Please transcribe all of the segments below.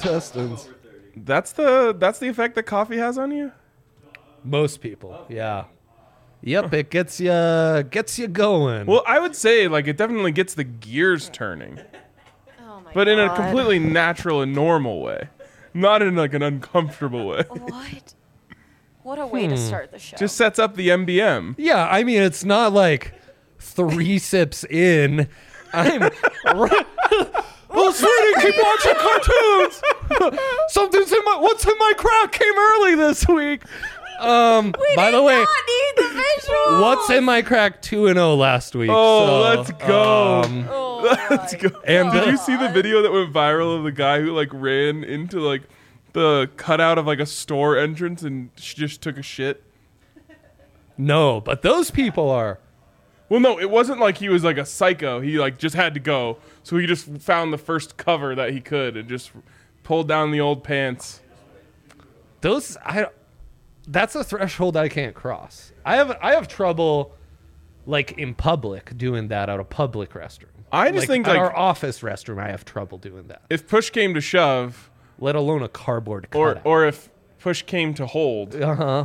intestines. That's the effect that coffee has on you? Most people, yeah. Yep, it gets you going. Well, I would say like it definitely gets the gears turning. Oh my But God. in a completely natural and normal way. Not in like an uncomfortable way. What? What a way to start the show. Just sets up the MBM. Yeah, I mean, it's not like 3 sips in. I'm. Well, sweetie, keep watching cartoons. Something's in my. What's in my crack came early this week. By the way, not need the visuals. what's in my crack 2-0 last week. Oh, so, let's go. Oh Let's go. And Did you see the video that went viral of the guy who like ran into like the cutout of like a store entrance and just took a shit? No, but those people are. Well, no, it wasn't like he was like a psycho. He like just had to go. So he just found the first cover that he could and just pulled down the old pants. That's a threshold I can't cross. I have trouble like in public doing that at a public restroom. I just think at like our office restroom I have trouble doing that. if push came to shove, Let alone a cardboard cutout. or if push came to hold,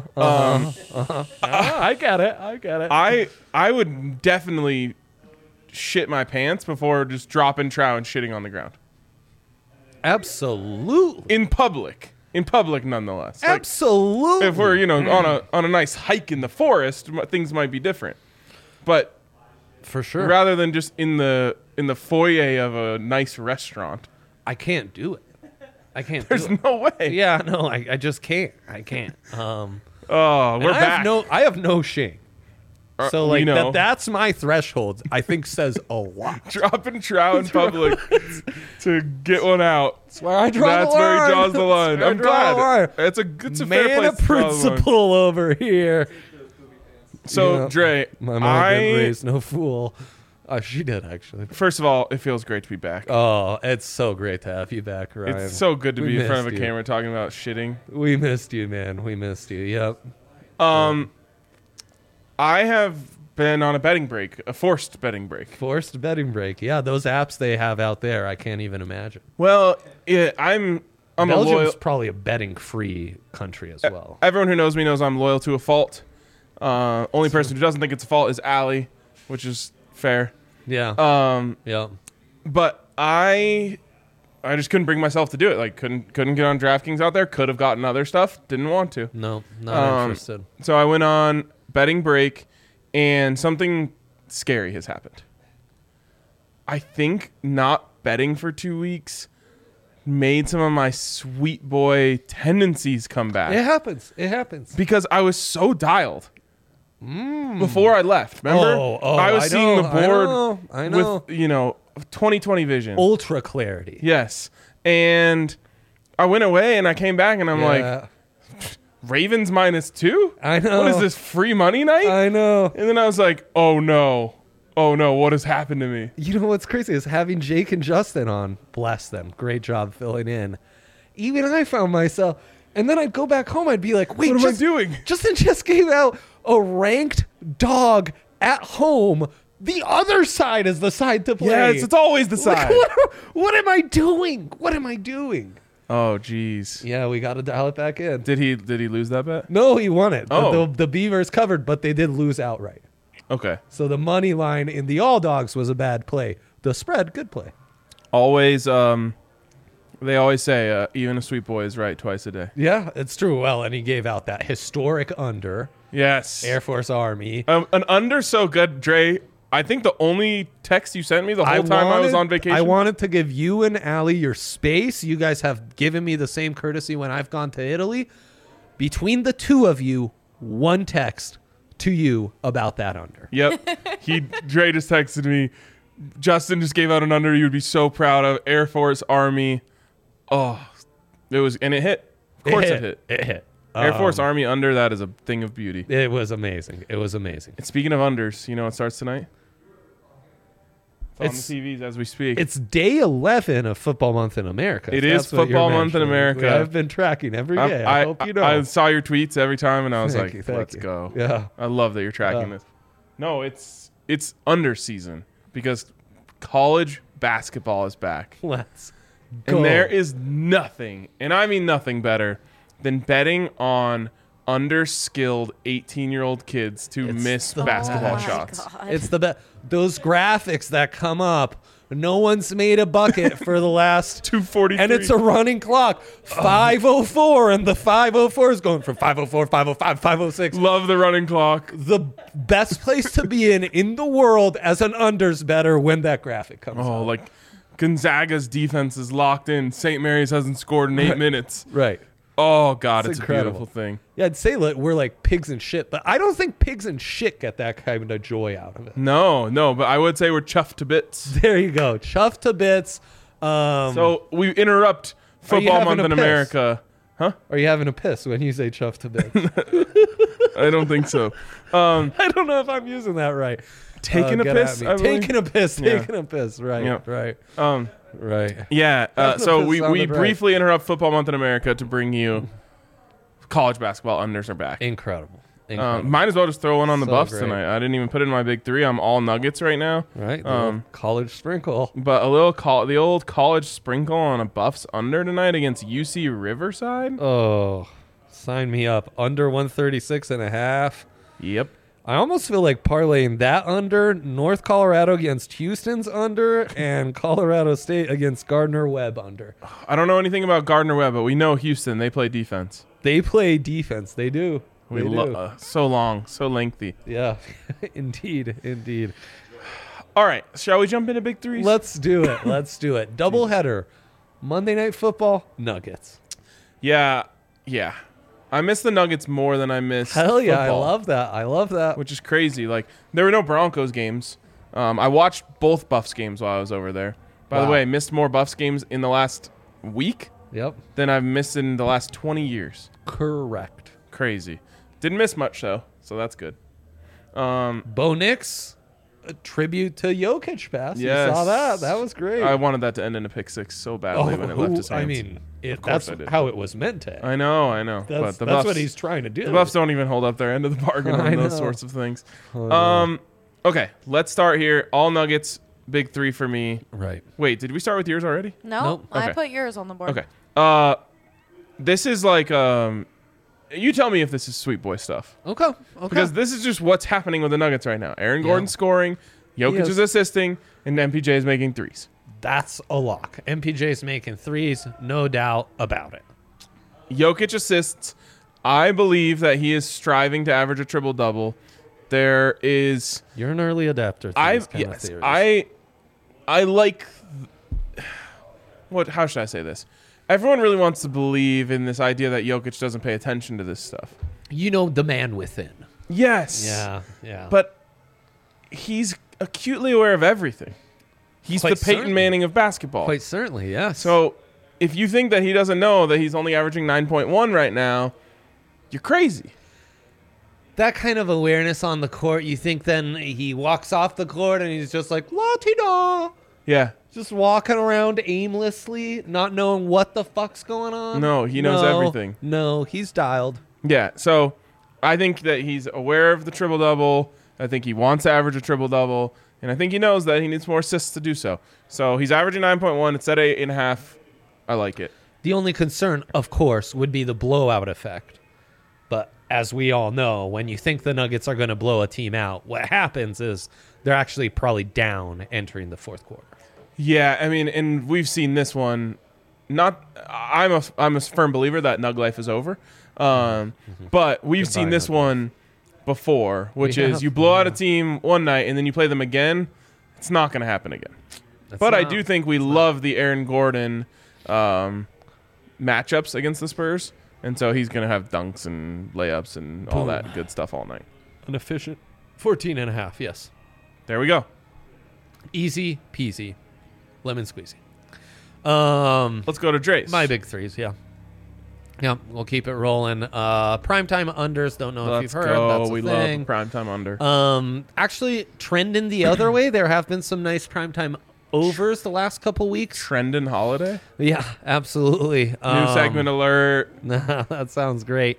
I get it. I would definitely shit my pants before just dropping trow and shitting on the ground. Absolutely. In public, nonetheless. Like, Absolutely. if we're on a nice hike in the forest, things might be different. But for sure. rather than just in the foyer of a nice restaurant, I can't do it. there's no way. Yeah, no, I just can't. I can't. Oh, And we're back. I have no shame. So we like know. that's my threshold. I think says a lot. Dropping trow in public to get one out. That's where I draw That's the where line. he draws the line. That's where I I'm draw the line. glad. It's a fair Man place of to draw the line. principle over here. So, Yeah. Dre, My mom didn't raise no fool. She did actually. first of all, it feels great to be back. Oh, it's so great to have you back, Ryan. It's so good to We be in front of a missed you. camera talking about shitting. We missed you, man. We missed you. Yep. I have been on a betting break, a forced betting break. Forced betting break. Yeah, those apps they have out there, I can't even imagine. Well, I'm a Belgium's loyal. probably a betting-free country as well. Everyone who knows me knows I'm loyal to a fault. Only person who doesn't think it's a fault is Allie, which is fair. Yeah. Yeah. But I just couldn't bring myself to do it. Like couldn't get on DraftKings out there. Could have gotten other stuff. Didn't want to. No, not interested. So I went on betting break, and something scary has happened. I think not betting for 2 weeks made some of my sweet boy tendencies come back. It happens. It happens. Because I was so dialed before I left. Remember? I was seeing the board I know. with 20/20 vision. Ultra clarity. Yes. And I went away and I came back and I'm like, Ravens -2? I know. What is this, free money night? I know. And then I was like, oh no, what has happened to me? You know what's crazy is having Jake and Justin on. Bless them. Great job filling in. Even I found myself, and then I'd go back home. I'd be like, wait, What am I doing? Justin just gave out a ranked dog at home. The other side is the side to play. Yes, it's always the Like, side. what am I doing? What am I doing? Oh, jeez. Yeah, we got to dial it back in. Did he lose that bet? No, he won it. Oh. The Beavers covered, but they did lose outright. Okay. So the money line in the all dogs was a bad play. The spread, good play. Always, they always say, even a sweet boy is right twice a day. Yeah, it's true. Well, and he gave out that historic under Yes. Air Force Army. An under so good, Dre. I think the only text you sent me the whole time I was on vacation. I wanted to give you and Allie your space. You guys have given me the same courtesy when I've gone to Italy. Between the two of you, one text to you about that under. Yep. Dre just texted me. Justin just gave out an under you would be so proud of. Air Force Army. Oh, and it hit. Of course it hit. It hit. Air Force Army under, that is a thing of beauty. It was amazing. It was amazing. And speaking of unders, you know what starts tonight? It's It's- on the TVs as we speak. It's day 11 of Football Month in America. It That's is what you're Football Month in mentioning. America. I've been tracking every day. I hope you know. I saw your tweets every time, and I was Thank you, thank let's you. go. Yeah. I love that you're tracking Yeah. this. No, it's under season because college basketball is back. Let's Go. And there is nothing, and I mean nothing better than betting on underskilled 18-year-old kids to It's miss the basketball Oh my shots. God. It's the best. Those graphics that come up. No one's made a bucket for the last 243. and it's a running clock. 5:04, and the 5:04 is going from 5:04, 5:05, 5:06. Love the running clock. The best place to be in the world as an unders better when that graphic comes Oh, out. like Gonzaga's defense is locked in. St. Mary's hasn't scored in 8 minutes. Right. Oh, God, It's it's a incredible. beautiful thing. Yeah, I'd say we're like pigs and shit, but I don't think pigs and shit get that kind of joy out of it. No, but I would say we're chuffed to bits. There you go. Chuffed to bits. So we interrupt Are you Football having Month a in piss? America. Huh? Are you having a piss when you say chuffed to bits? I don't think so. I don't know if I'm using that right. Taking a Get at piss? me. I believe? Taking a piss. Yeah. Taking a piss. Right. Yeah. Right. Right. Yeah. Having a So piss we sounded right. briefly interrupt Football Month in America to bring you college basketball unders are back. Incredible. Incredible. Might as well just throw one on the So Buffs great. tonight. I didn't even put it in my big three. I'm all Nuggets right now. Right. The college sprinkle. But the old college sprinkle on a Buffs under tonight against UC Riverside. Oh, sign me up. Under 136 and a half. Yep. I almost feel like parlaying that under North Colorado against Houston's under and Colorado State against Gardner Webb under. I don't know anything about Gardner Webb, but we know Houston. They play defense. They play defense. They do. We They do. so long, so lengthy. Yeah. Indeed. Indeed. All right, shall we jump into big threes? Let's do it. Let's do it. Doubleheader. Monday Night Football, Nuggets. Yeah. I miss the Nuggets more than I miss Hell yeah. football, I love that. I love that. which is crazy. Like, there were no Broncos games. I watched both Buffs games while I was over there. By the Wow. way, I missed more Buffs games in the last week Yep. than I've missed in the last 20 years. Correct. Crazy. Didn't miss much, though, so that's good. Bo Nix, a tribute to Jokic pass. Yes. You saw that. That was great. I wanted that to end in a pick six so badly when it left his hands. I mean, course that's I did. how it was meant to. I know. That's, But the that's Buffs, what he's trying to do. the Buffs don't even hold up their end of the bargain I on those know. sorts of things. Oh, Okay, let's start here. All Nuggets, big three for me. right. Wait, did we start with yours already? No, Nope. I Okay. put yours on the board. Okay. This is like you tell me if this is sweet boy stuff. Okay. Okay. Because this is just what's happening with the Nuggets right now. Aaron Gordon scoring, Jokic is. is assisting, and MPJ is making threes. that's a lock. MPJ's making threes, no doubt about it. Jokic assists. I believe that he is striving to average a triple double. There is You're an early adapter. To these kind of theories. I like how should I say this? Everyone really wants to believe in this idea that Jokic doesn't pay attention to this stuff. You know the man within. Yes. Yeah. Yeah. But he's acutely aware of everything. He's Quite the Peyton certainly. Manning of basketball. quite certainly, yes. So if you think that he doesn't know that he's only averaging 9.1 right now, you're crazy. that kind of awareness on the court, you think then he walks off the court and he's just like la-ti-da, Yeah. just walking around aimlessly, not knowing what the fuck's going on. No, he knows everything. No, he's dialed. Yeah, so I think that he's aware of the triple-double. I think he wants to average a triple-double. And I think he knows that he needs more assists to do so. So he's averaging 9.1. It's at 8.5. I like it. The only concern, of course, would be the blowout effect. But as we all know, when you think the Nuggets are going to blow a team out, what happens is they're actually probably down entering the fourth quarter. Yeah, I mean, and we've seen this one. I'm a firm believer that Nug life is over. But we've seen this Nug life. one before, which We is have, you blow out a yeah. team one night and then you play them again. It's not going to happen again. But I do think we love the Aaron Gordon matchups against the Spurs. And so he's going to have dunks and layups and all Boom. that good stuff all night. An efficient 14 and a half, yes. There we go. Easy peasy. Lemon squeezy. Let's go to Dre's. My big threes, yeah. Yeah, we'll keep it rolling. Primetime unders, don't know if Let's you've heard. go. That's a We thing. love primetime under. Actually, trending the other way. There have been some nice primetime overs the last couple weeks. Trendon Holiday. Yeah, absolutely. New segment alert. That sounds great.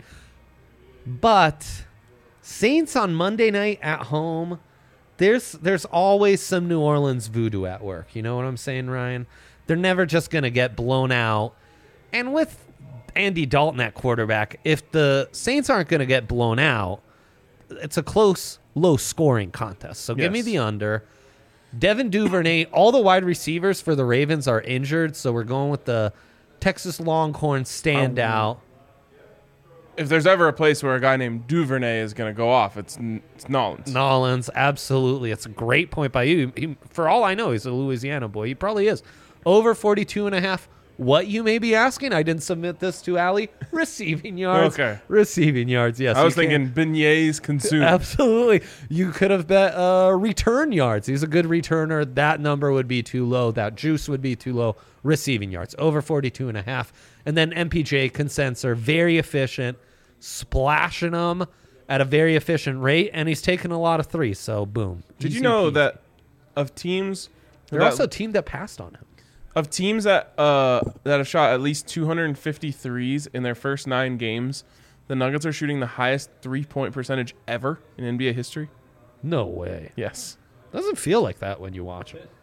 But Saints on Monday night at home, there's always some New Orleans voodoo at work. You know what I'm saying, Ryan? They're never just going to get blown out. And with Andy Dalton at quarterback, if the Saints aren't going to get blown out, it's a close, low-scoring contest. So give me Yes. the under. Devin Duvernay, all the wide receivers for the Ravens are injured, so we're going with the Texas Longhorn standout. If there's ever a place where a guy named Duvernay is going to go off, it's Nolans. Nolans, absolutely. It's a great point by you. For all I know, he's a Louisiana boy. He probably is. Over 42.5. What you may be asking, I didn't submit this to Allie. Receiving yards. Okay. Receiving yards, yes. I was you can. thinking beignets consumed. Absolutely. You could have bet return yards. He's a good returner. That number would be too low. That juice would be too low. Receiving yards, over 42.5. And then MPJ consents are very efficient, splashing them at a very efficient rate, and he's taking a lot of threes. So, boom. Did you Easy know peasy. that of teams They're that, also a team that passed on him? of teams that have shot at least 250 threes in their first 9 games, the Nuggets are shooting the highest 3-point percentage ever in NBA history? No way. Yes. Doesn't feel like that when you watch it.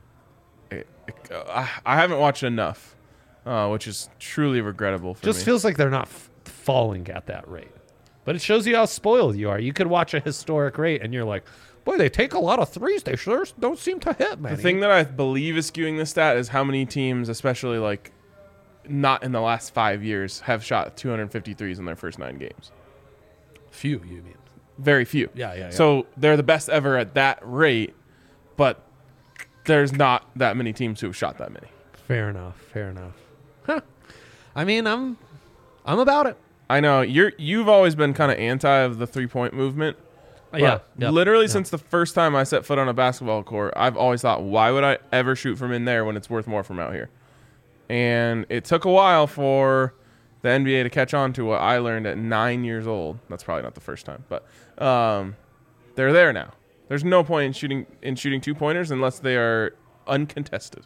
I haven't watched enough, which is truly regrettable for Just me. feels like they're not falling at that rate. But it shows you how spoiled you are. You could watch a historic rate and you're like, boy, they take a lot of threes. They sure don't seem to hit, man. The thing that I believe is skewing this stat is how many teams, especially like not in the last 5 years, have shot 250 threes in their first 9 games. Few, you mean. Very few. Yeah. So they're the best ever at that rate, but there's not that many teams who have shot that many. Fair enough. Huh. I mean, I'm about it. I know you've always been kind of anti of the 3-point movement. Yeah. But literally since the first time I set foot on a basketball court, I've always thought, why would I ever shoot from in there when it's worth more from out here? And it took a while for the NBA to catch on to what I learned at 9 years old. That's probably not the first time, but they're there now. There's no point in shooting 2-pointers unless they are uncontested.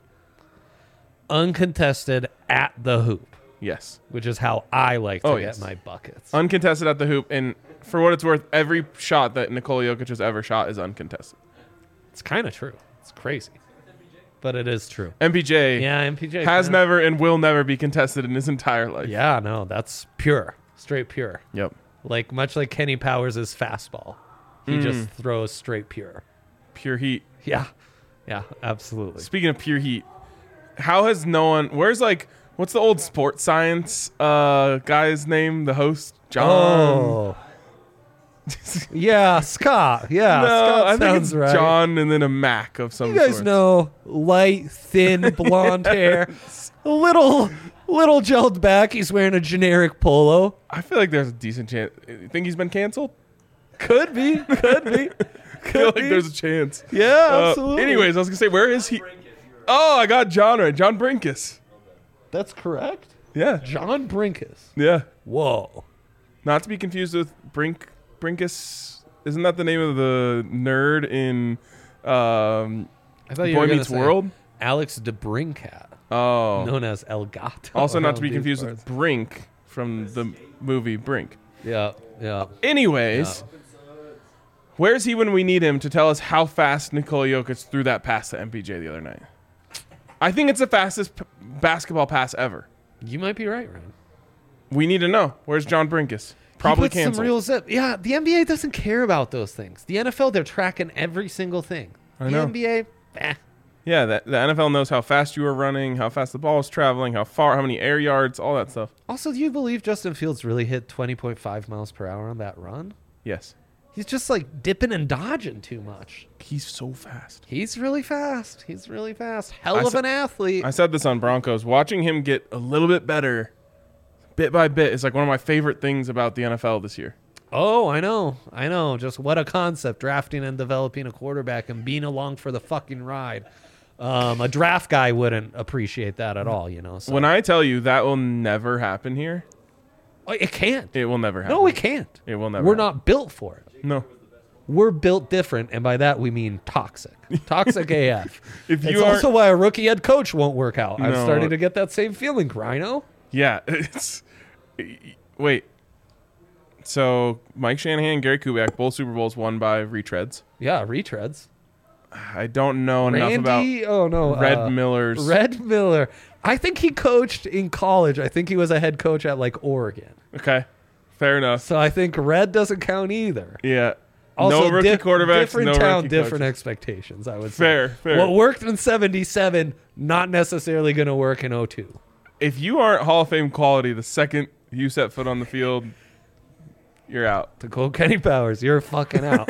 Uncontested at the hoop, Yes. which is how I like to get yes. my buckets. Uncontested at the hoop. And for what it's worth, every shot that Nikola Jokic has ever shot is uncontested. It's kind of true. It's crazy. But it is true. MPJ Yeah, MPJ has kinda- never and will never be contested in his entire life. Yeah, no, that's pure. Straight pure. Yep. Like much like Kenny Powers' fastball. He just throws straight pure. Pure heat. Yeah. Yeah, absolutely. Speaking of pure heat, how has no one... What's the old sports science guy's name? The host? John? Oh. Yeah, Scott. Yeah, No, Scott I think sounds it's right. John and then a Mac of some You guys sort. know, light, thin, blonde hair, a little gelled back. He's wearing a generic polo. I feel like there's a decent chance. You think he's been canceled? Could be. I feel like be. there's a chance. Yeah, absolutely. Anyways, I was going to say, where is he? Oh, I got John right. John Brinkus. That's correct. Yeah. John Brinkus. Yeah. Whoa. Not to be confused with Brinkus. Isn't that the name of the nerd in I thought you Boy were gonna Meets say World? Alex DeBrincat, Oh. known as El Gato. Also not to be around these confused parts. with Brink from the movie Brink. Yeah. Anyways, where's he when we need him to tell us how fast Nikola Jokic threw that pass to MPJ the other night? I think it's the fastest basketball pass ever. You might be right, Ryan. We need to know. Where's John Brinkus? Probably He puts canceled. some real zip. Yeah, the NBA doesn't care about those things. The NFL, they're tracking every single thing. I The know. NBA, Yeah, the NFL knows how fast you are running, how fast the ball is traveling, how far, how many air yards, all that stuff. Also, do you believe Justin Fields really hit 20.5 miles per hour on that run? Yes. He's just like dipping and dodging too much. He's so fast. He's really fast. Hell I of sa- an athlete. I said this on Broncos. Watching him get a little bit better, bit by bit, is like one of my favorite things about the NFL this year. Oh, I know. Just what a concept, drafting and developing a quarterback and being along for the fucking ride. A draft guy wouldn't appreciate that at all, you know. So. When I tell you that will never happen here, Oh, it can't. it will never happen. No, it can't. It will never We're happen. not built for it. No. We're built different, and by that we mean toxic. Toxic AF. If It's you are, also why a rookie head coach won't work out. I'm No. starting to get that same feeling, Rhino. yeah, it's. Wait. So Mike Shanahan, Gary Kubiak, both Super Bowls won by retreads. Yeah, retreads. I don't know enough about Randy? Oh no, Red Miller's. Red Miller. I think he coached in college. I think he was a head coach at like Oregon. Okay, fair enough. So I think Red doesn't count either. Yeah. Also, no rookie quarterbacks. different no town, rookie different coaches. expectations. I would say. Fair. What worked in '77, not necessarily going to work in '02. If you aren't Hall of Fame quality, the second you set foot on the field, you're out. To quote Kenny Powers, you're fucking out.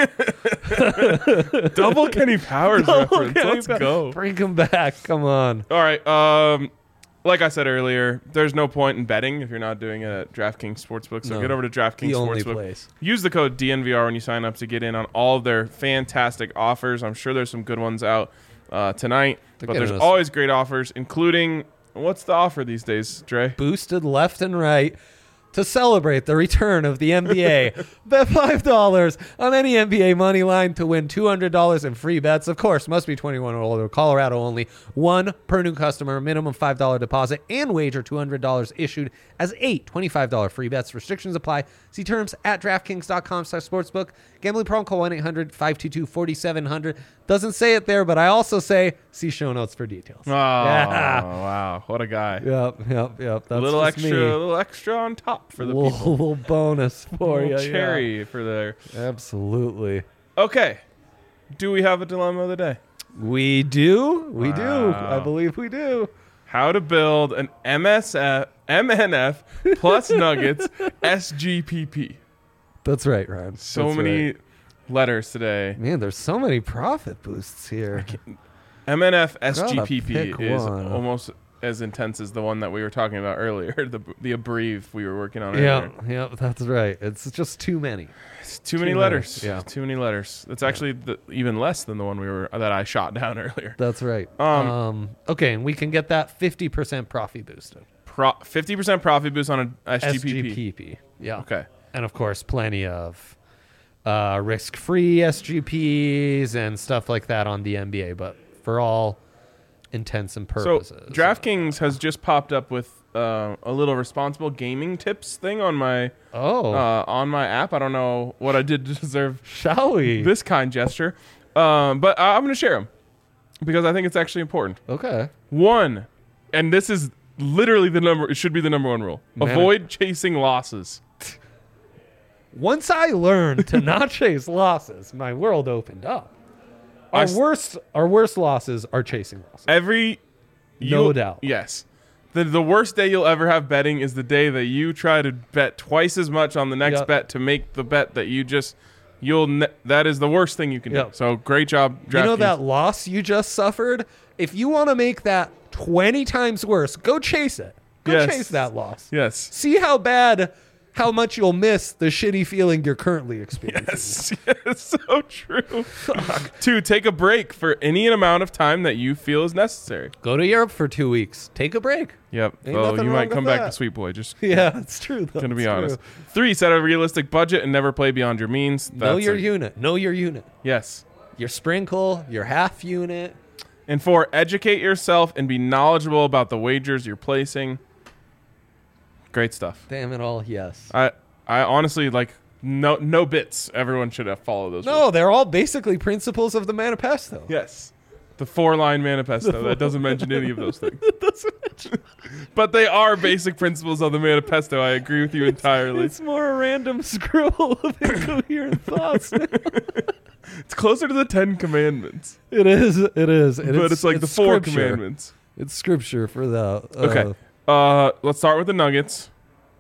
Double Kenny Powers reference. Kenny Let's go. Bring him back. Come on. All right. Like I said earlier, there's no point in betting if you're not doing it at DraftKings Sportsbook. So No. get over to DraftKings The only Sportsbook. place. Use the code DNVR when you sign up to get in on all of their fantastic offers. I'm sure there's some good ones out tonight. But getting there's us- always great offers, including what's the offer these days, Dre? Boosted left and right to celebrate the return of the NBA. Bet $5 on any NBA money line to win $200 in free bets. Of course, must be 21 or older. Colorado only. One per new customer. Minimum $5 deposit and wager $200 issued as 8 $25 free bets. Restrictions apply. See terms at DraftKings.com/sportsbook. Gambling problem, call 1-800-522-4700. Doesn't say it there, but I also say see show notes for details. Oh, Yeah. wow. What a guy. Yep. That's A little just extra, me. a little extra on top for the little, people. little bonus for you. Little cherry for there. Absolutely. Okay. Do we have a dilemma of the day? We do. We do. Wow. I believe we do. How to build an MNF plus Nuggets SGPP. That's right, Ryan. So That's many right. letters today. Man, there's so many profit boosts here. MNF Gotta SGPP pick is one. almost as intense as the one that we were talking about earlier, the abbrev we were working on Yeah, earlier. yeah, that's right. It's just too many. It's too many Too letters. many, yeah. Too many letters. It's actually even less than the one that I shot down earlier. That's right. Okay, and we can get that 50% profit boosted. 50% profit boost on a SGPP. SGPP. Yeah. Okay. And of course, plenty of risk-free SGPs and stuff like that on the NBA, but for all intents and purposes. So DraftKings has just popped up with a little responsible gaming tips thing on my app. I don't know what I did to deserve Shall we? this kind gesture, but I'm going to share them because I think it's actually important. Okay. One, and this is literally it should be the number one rule. Man. Avoid chasing losses. Once I learned to not chase losses, my world opened up. Our worst losses are chasing losses. No doubt. Yes. The worst day you'll ever have betting is the day that you try to bet twice as much on the next Yep. bet to make the bet that that is the worst thing you can Yep. do. So great job, DraftKings. You know that loss you just suffered? If you want to make that 20 times worse, go chase it. Go Yes. chase that loss. Yes. See how much you'll miss the shitty feeling you're currently experiencing. Yes, so true. 2, take a break for any amount of time that you feel is necessary. Go to Europe for 2 weeks. Take a break. Yep. Ain't Well, nothing you wrong might with come back that. to Sweet Boy. Just Yeah, it's true. Though. gonna be It's honest. true. 3, set a realistic budget and never play beyond your means. Know That's your unit. Know your unit. Yes. Your sprinkle, your half unit. And 4, educate yourself and be knowledgeable about the wagers you're placing. Great stuff. Damn it all, yes. I honestly no bits. Everyone should have followed those. rules. No, they're all basically principles of the manifesto. Yes. The 4-line manifesto that doesn't mention any of those things. But they are basic principles of the manifesto. I agree with you entirely. It's more a random scribble of incoherent thoughts. It's closer to the 10 Commandments. It is. And But it's like the 4 scripture. Commandments. It's scripture for that. Okay. Let's start with the Nuggets.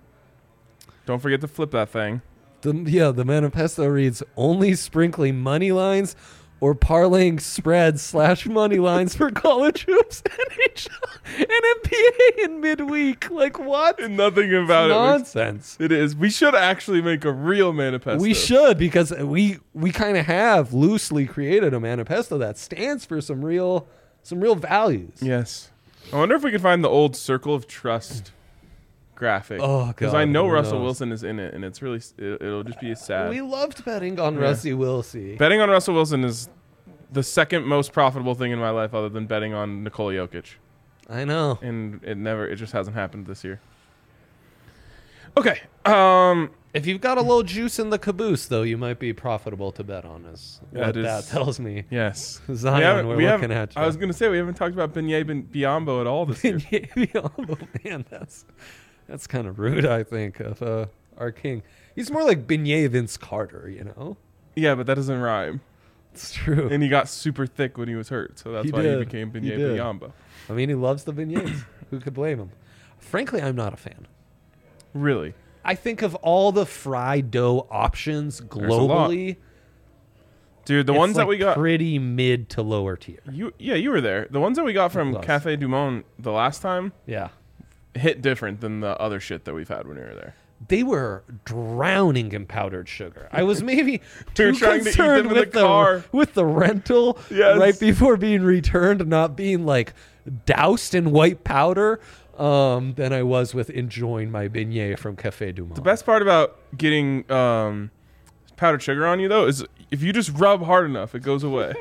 Don't forget to flip that thing. The manifesto reads, only sprinkling money lines or parlaying spreads / money lines for college hoops, NHL, and NBA in midweek. Like what? And nothing about it. Nonsense. It is. We should actually make a real manifesto. We should, because we kind of have loosely created a manifesto that stands for some real values. Yes. I wonder if we could find the old Circle of Trust graphic. Oh, because God, I know who Russell knows? Wilson is in it, and it's really it'll just be sad. We loved betting on Yeah. Rusty Wilson. Betting on Russell Wilson is the second most profitable thing in my life, other than betting on Nikola Jokic, I know. and it just hasn't happened this year. Okay. If you've got a little juice in the caboose, though, you might be profitable to bet on. Is what that tells me. Yes. Zion, we're looking at you. I was going to say, we haven't talked about Beignet Biombo at all this year. Biombo, man, that's kind of rude, I think, of our king. He's more like Beignet Vince Carter, you know? Yeah, but that doesn't rhyme. It's true. And he got super thick when he was hurt, so that's why he became Beignet Biombo. I mean, he loves the beignets. Who could blame him? Frankly, I'm not a fan. Really? I think of all the fried dough options globally, dude, the ones that we got pretty mid to lower tier. You were there. The ones that we got from Cafe Du Monde the last time, hit different than the other shit that we've had when we were there. They were drowning in powdered sugar. I was maybe too concerned to eat them in with the car. With the rental right before being returned, not being like doused in white powder. Than I was with enjoying my beignet from Cafe Du Monde. The best part about getting powdered sugar on you, though, is if you just rub hard enough, it goes away.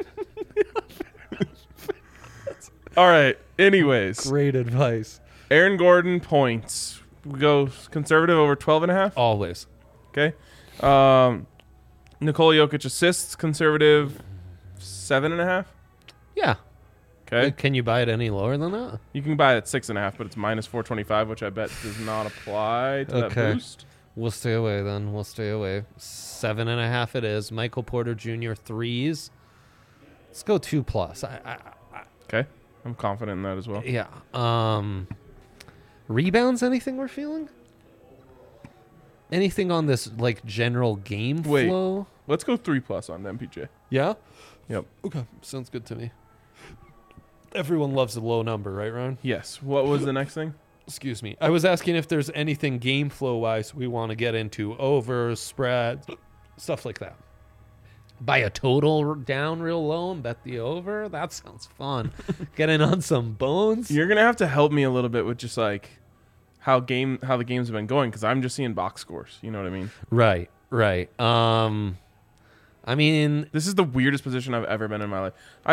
All right. Anyways. Great advice. Aaron Gordon points. We go conservative over 12.5? Always. Okay. Nikola Jokic assists, conservative 7.5? Yeah. Okay. Can you buy it any lower than that? You can buy it at 6.5, but it's minus 425, which I bet does not apply to that boost. We'll stay away then. 7.5 it is. Michael Porter Jr. threes. Let's go 2+. Okay. I'm confident in that as well. Yeah. Rebounds, anything we're feeling? Anything on this like general game flow? Let's go 3+ on MPJ. Yeah? Yep. Okay. Sounds good to me. Everyone loves a low number, right, Ron? Yes. What was the next thing? Excuse me. I was asking if there's anything game flow-wise we want to get into. Overs, spreads, stuff like that. Buy a total down real low and bet the over? That sounds fun. Get in on some bones. You're going to have to help me a little bit with just like how the games have been going, because I'm just seeing box scores. You know what I mean? Right. I mean... This is the weirdest position I've ever been in my life.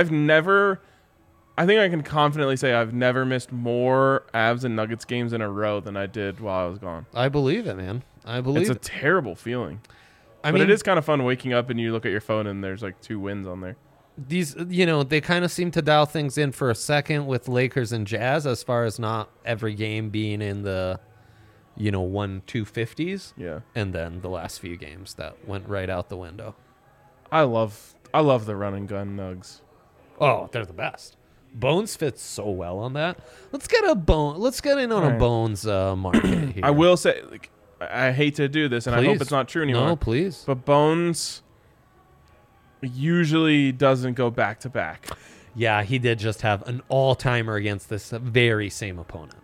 I think I can confidently say I've never missed more Avs and Nuggets games in a row than I did while I was gone. I believe it, man. It's a terrible feeling. But it is kind of fun waking up and you look at your phone and there's like 2 wins on there. These, they kind of seem to dial things in for a second with Lakers and Jazz, as far as not every game being in the, 1-250s. Yeah. And then the last few games that went right out the window. I love the run and gun Nugs. Oh, they're the best. Bones fits so well on that. Let's get in on a Bones market here. I will say, like, I hate to do this, and I hope it's not true anymore. No, please. But Bones usually doesn't go back to back. Yeah, he did just have an all-timer against this very same opponent.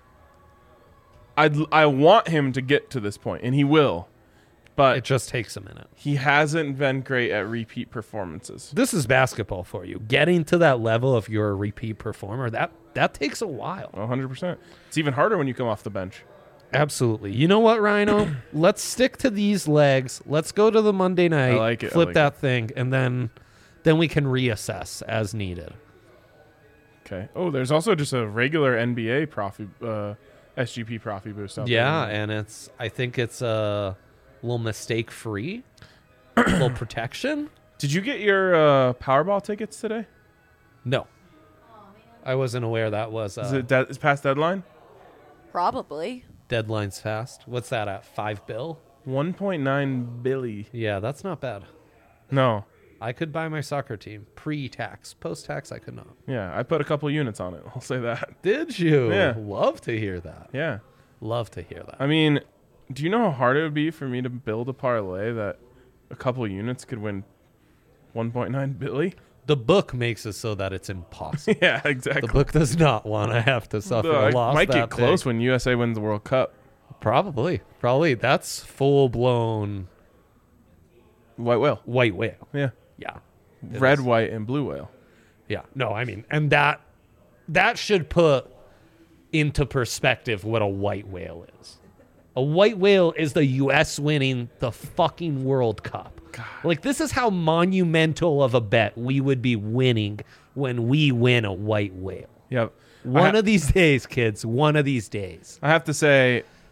I want him to get to this point, and he will. But it just takes a minute. He hasn't been great at repeat performances. This is basketball for you. Getting to that level, if you're a repeat performer, that takes a while. 100%. It's even harder when you come off the bench. Absolutely. You know what, Rhino? Let's stick to these legs. Let's go to the Monday night. I like it. Flip that thing, and then we can reassess as needed. Okay. Oh, there's also just a regular NBA SGP Profi boost out there. Yeah, and I think it's a little mistake-free, a little protection. Did you get your Powerball tickets today? No. I wasn't aware that was... Is past deadline? Probably. Deadline's fast. What's that at, $5 billion? 1.9 billion. Yeah, that's not bad. No. I could buy my soccer team pre-tax. Post-tax, I could not. Yeah, I put a couple units on it. I'll say that. Did you? Yeah. Love to hear that. Yeah. Love to hear that. I mean... Do you know how hard it would be for me to build a parlay that a couple units could win 1.9 billion? The book makes it so that it's impossible. Yeah, exactly. The book does not want to have to suffer a loss. Might get close when USA wins the World Cup. Probably. That's full-blown... White whale. White whale. Yeah. Yeah. Red, white, and blue whale. Yeah. No, I mean, and that should put into perspective what a white whale is. A white whale is the U.S. winning the fucking World Cup. God. Like, this is how monumental of a bet we would be winning when we win a white whale. Yep. One of these days, kids. One of these days. I have to say,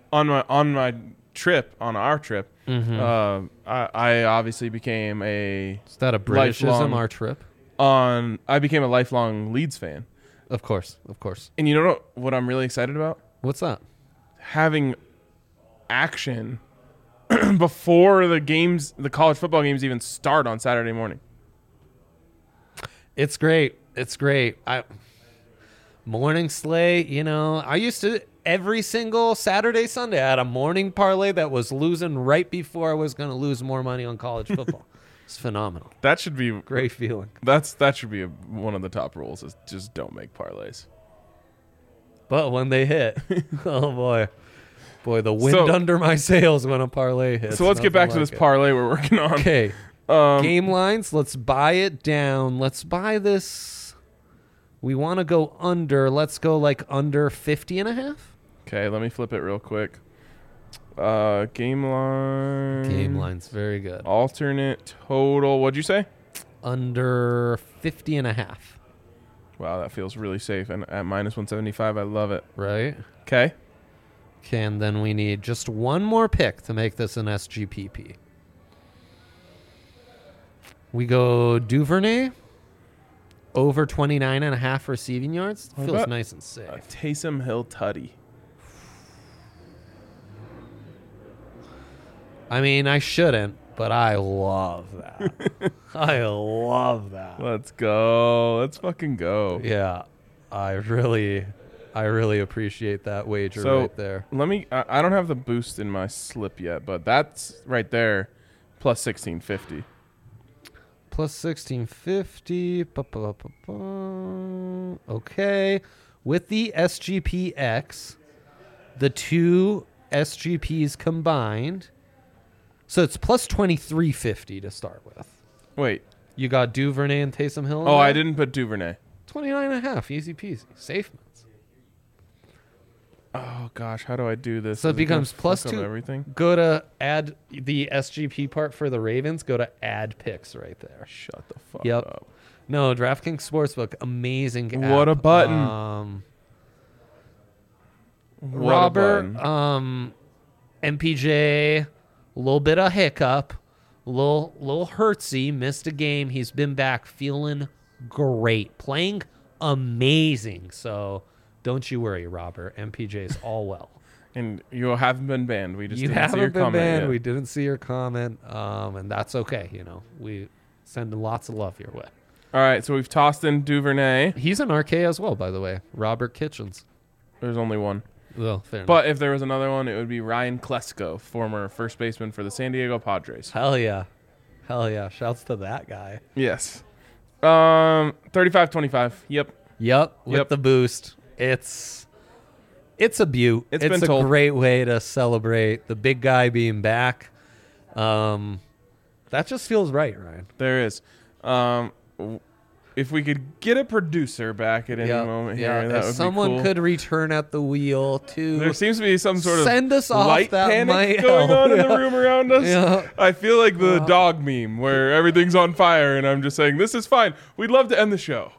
on our trip, I obviously became a Is that a Britishism, lifelong- our trip? I became a lifelong Leeds fan. Of course. And you know what I'm really excited about? What's that? Having action before the college football games even start on Saturday morning. It's great. Morning slate, I used to every single Saturday, Sunday, I had a morning parlay that was losing right before I was going to lose more money on college football. It's phenomenal. That should be Great feeling. that should be one of the top rules is just don't make parlays. But when they hit, oh boy, the wind under my sails when a parlay hits. So let's get back to Nothing this like it. parlay we're working on. Okay. Game lines. Let's buy it down. Let's buy this. We want to go under. Let's go like under 50.5. Okay, let me flip it real quick. Game line. Game lines. Very good. Alternate total. What'd you say? Under 50.5. Wow, that feels really safe. And at minus 175, I love it. Right? Okay. Okay, and then we need just one more pick to make this an SGPP. We go Duvernay over 29.5 receiving yards. What Feels about nice and safe. Taysom Hill Tutty. I mean, I shouldn't, but I love that. I love that. Let's go. Let's fucking go. Yeah, I really appreciate that wager So right there. let me. I don't have the boost in my slip yet, but that's right there, plus 1650. Plus 1650. Okay. With the SGPX, the two SGPs combined. So it's plus 2350 to start with. Wait. You got Duvernay and Taysom Hill? in Oh, I there? didn't put Duvernay. 29.5. Easy peasy. Safe minutes. Oh gosh, how do I do this? So it Is gonna becomes plus fuck up 2. everything. Go to add the SGP part for the Ravens. Go to add picks right there. Shut the fuck Yep. up. No, DraftKings Sportsbook, amazing app. What a button. What a Robert, button. MPJ, a little bit of hiccup, little hurtsy, missed a game. He's been back feeling great, playing amazing. So don't you worry, Robert. MPJ's all well. And you haven't been banned. We just You didn't see your haven't been comment banned. yet. We didn't see your comment, and that's okay. We send lots of love your way. All right, so we've tossed in Duvernay. He's an RK as well, by the way. Robert Kitchens. There's only one. Well, fair enough. But if there was another one, it would be Ryan Klesko, former first baseman for the San Diego Padres. Hell yeah. Shouts to that guy. Yes. 35-25. Yep. Yep. With Yep. the boost. It's a beaut. It's It's been a told. great way to celebrate the big guy being back. That just feels right, Ryan. There is. If we could get a producer back at any moment here, that if would someone be cool. could return at the wheel to There seems to be some sort of send us off, light that panic might going help. on in the Yeah. room around us. Yeah. I feel like the dog meme where everything's on fire and I'm just saying, this is fine. We'd love to end the show.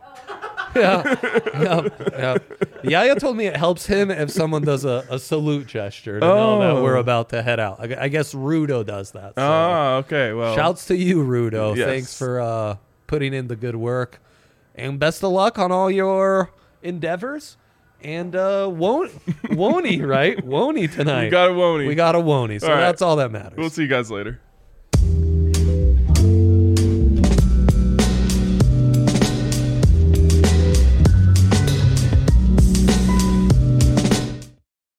Yep. Yaya told me it helps him if someone does a salute gesture to know that Oh. we're about to head out. I guess Rudo does that. So. Okay. Well, Shouts to you, Rudo. Yes. Thanks for putting in the good work. And best of luck on all your endeavors. And Woney, right? Woney tonight. we got a Woney. We got a Woney. So All right. that's all that matters. We'll see you guys later.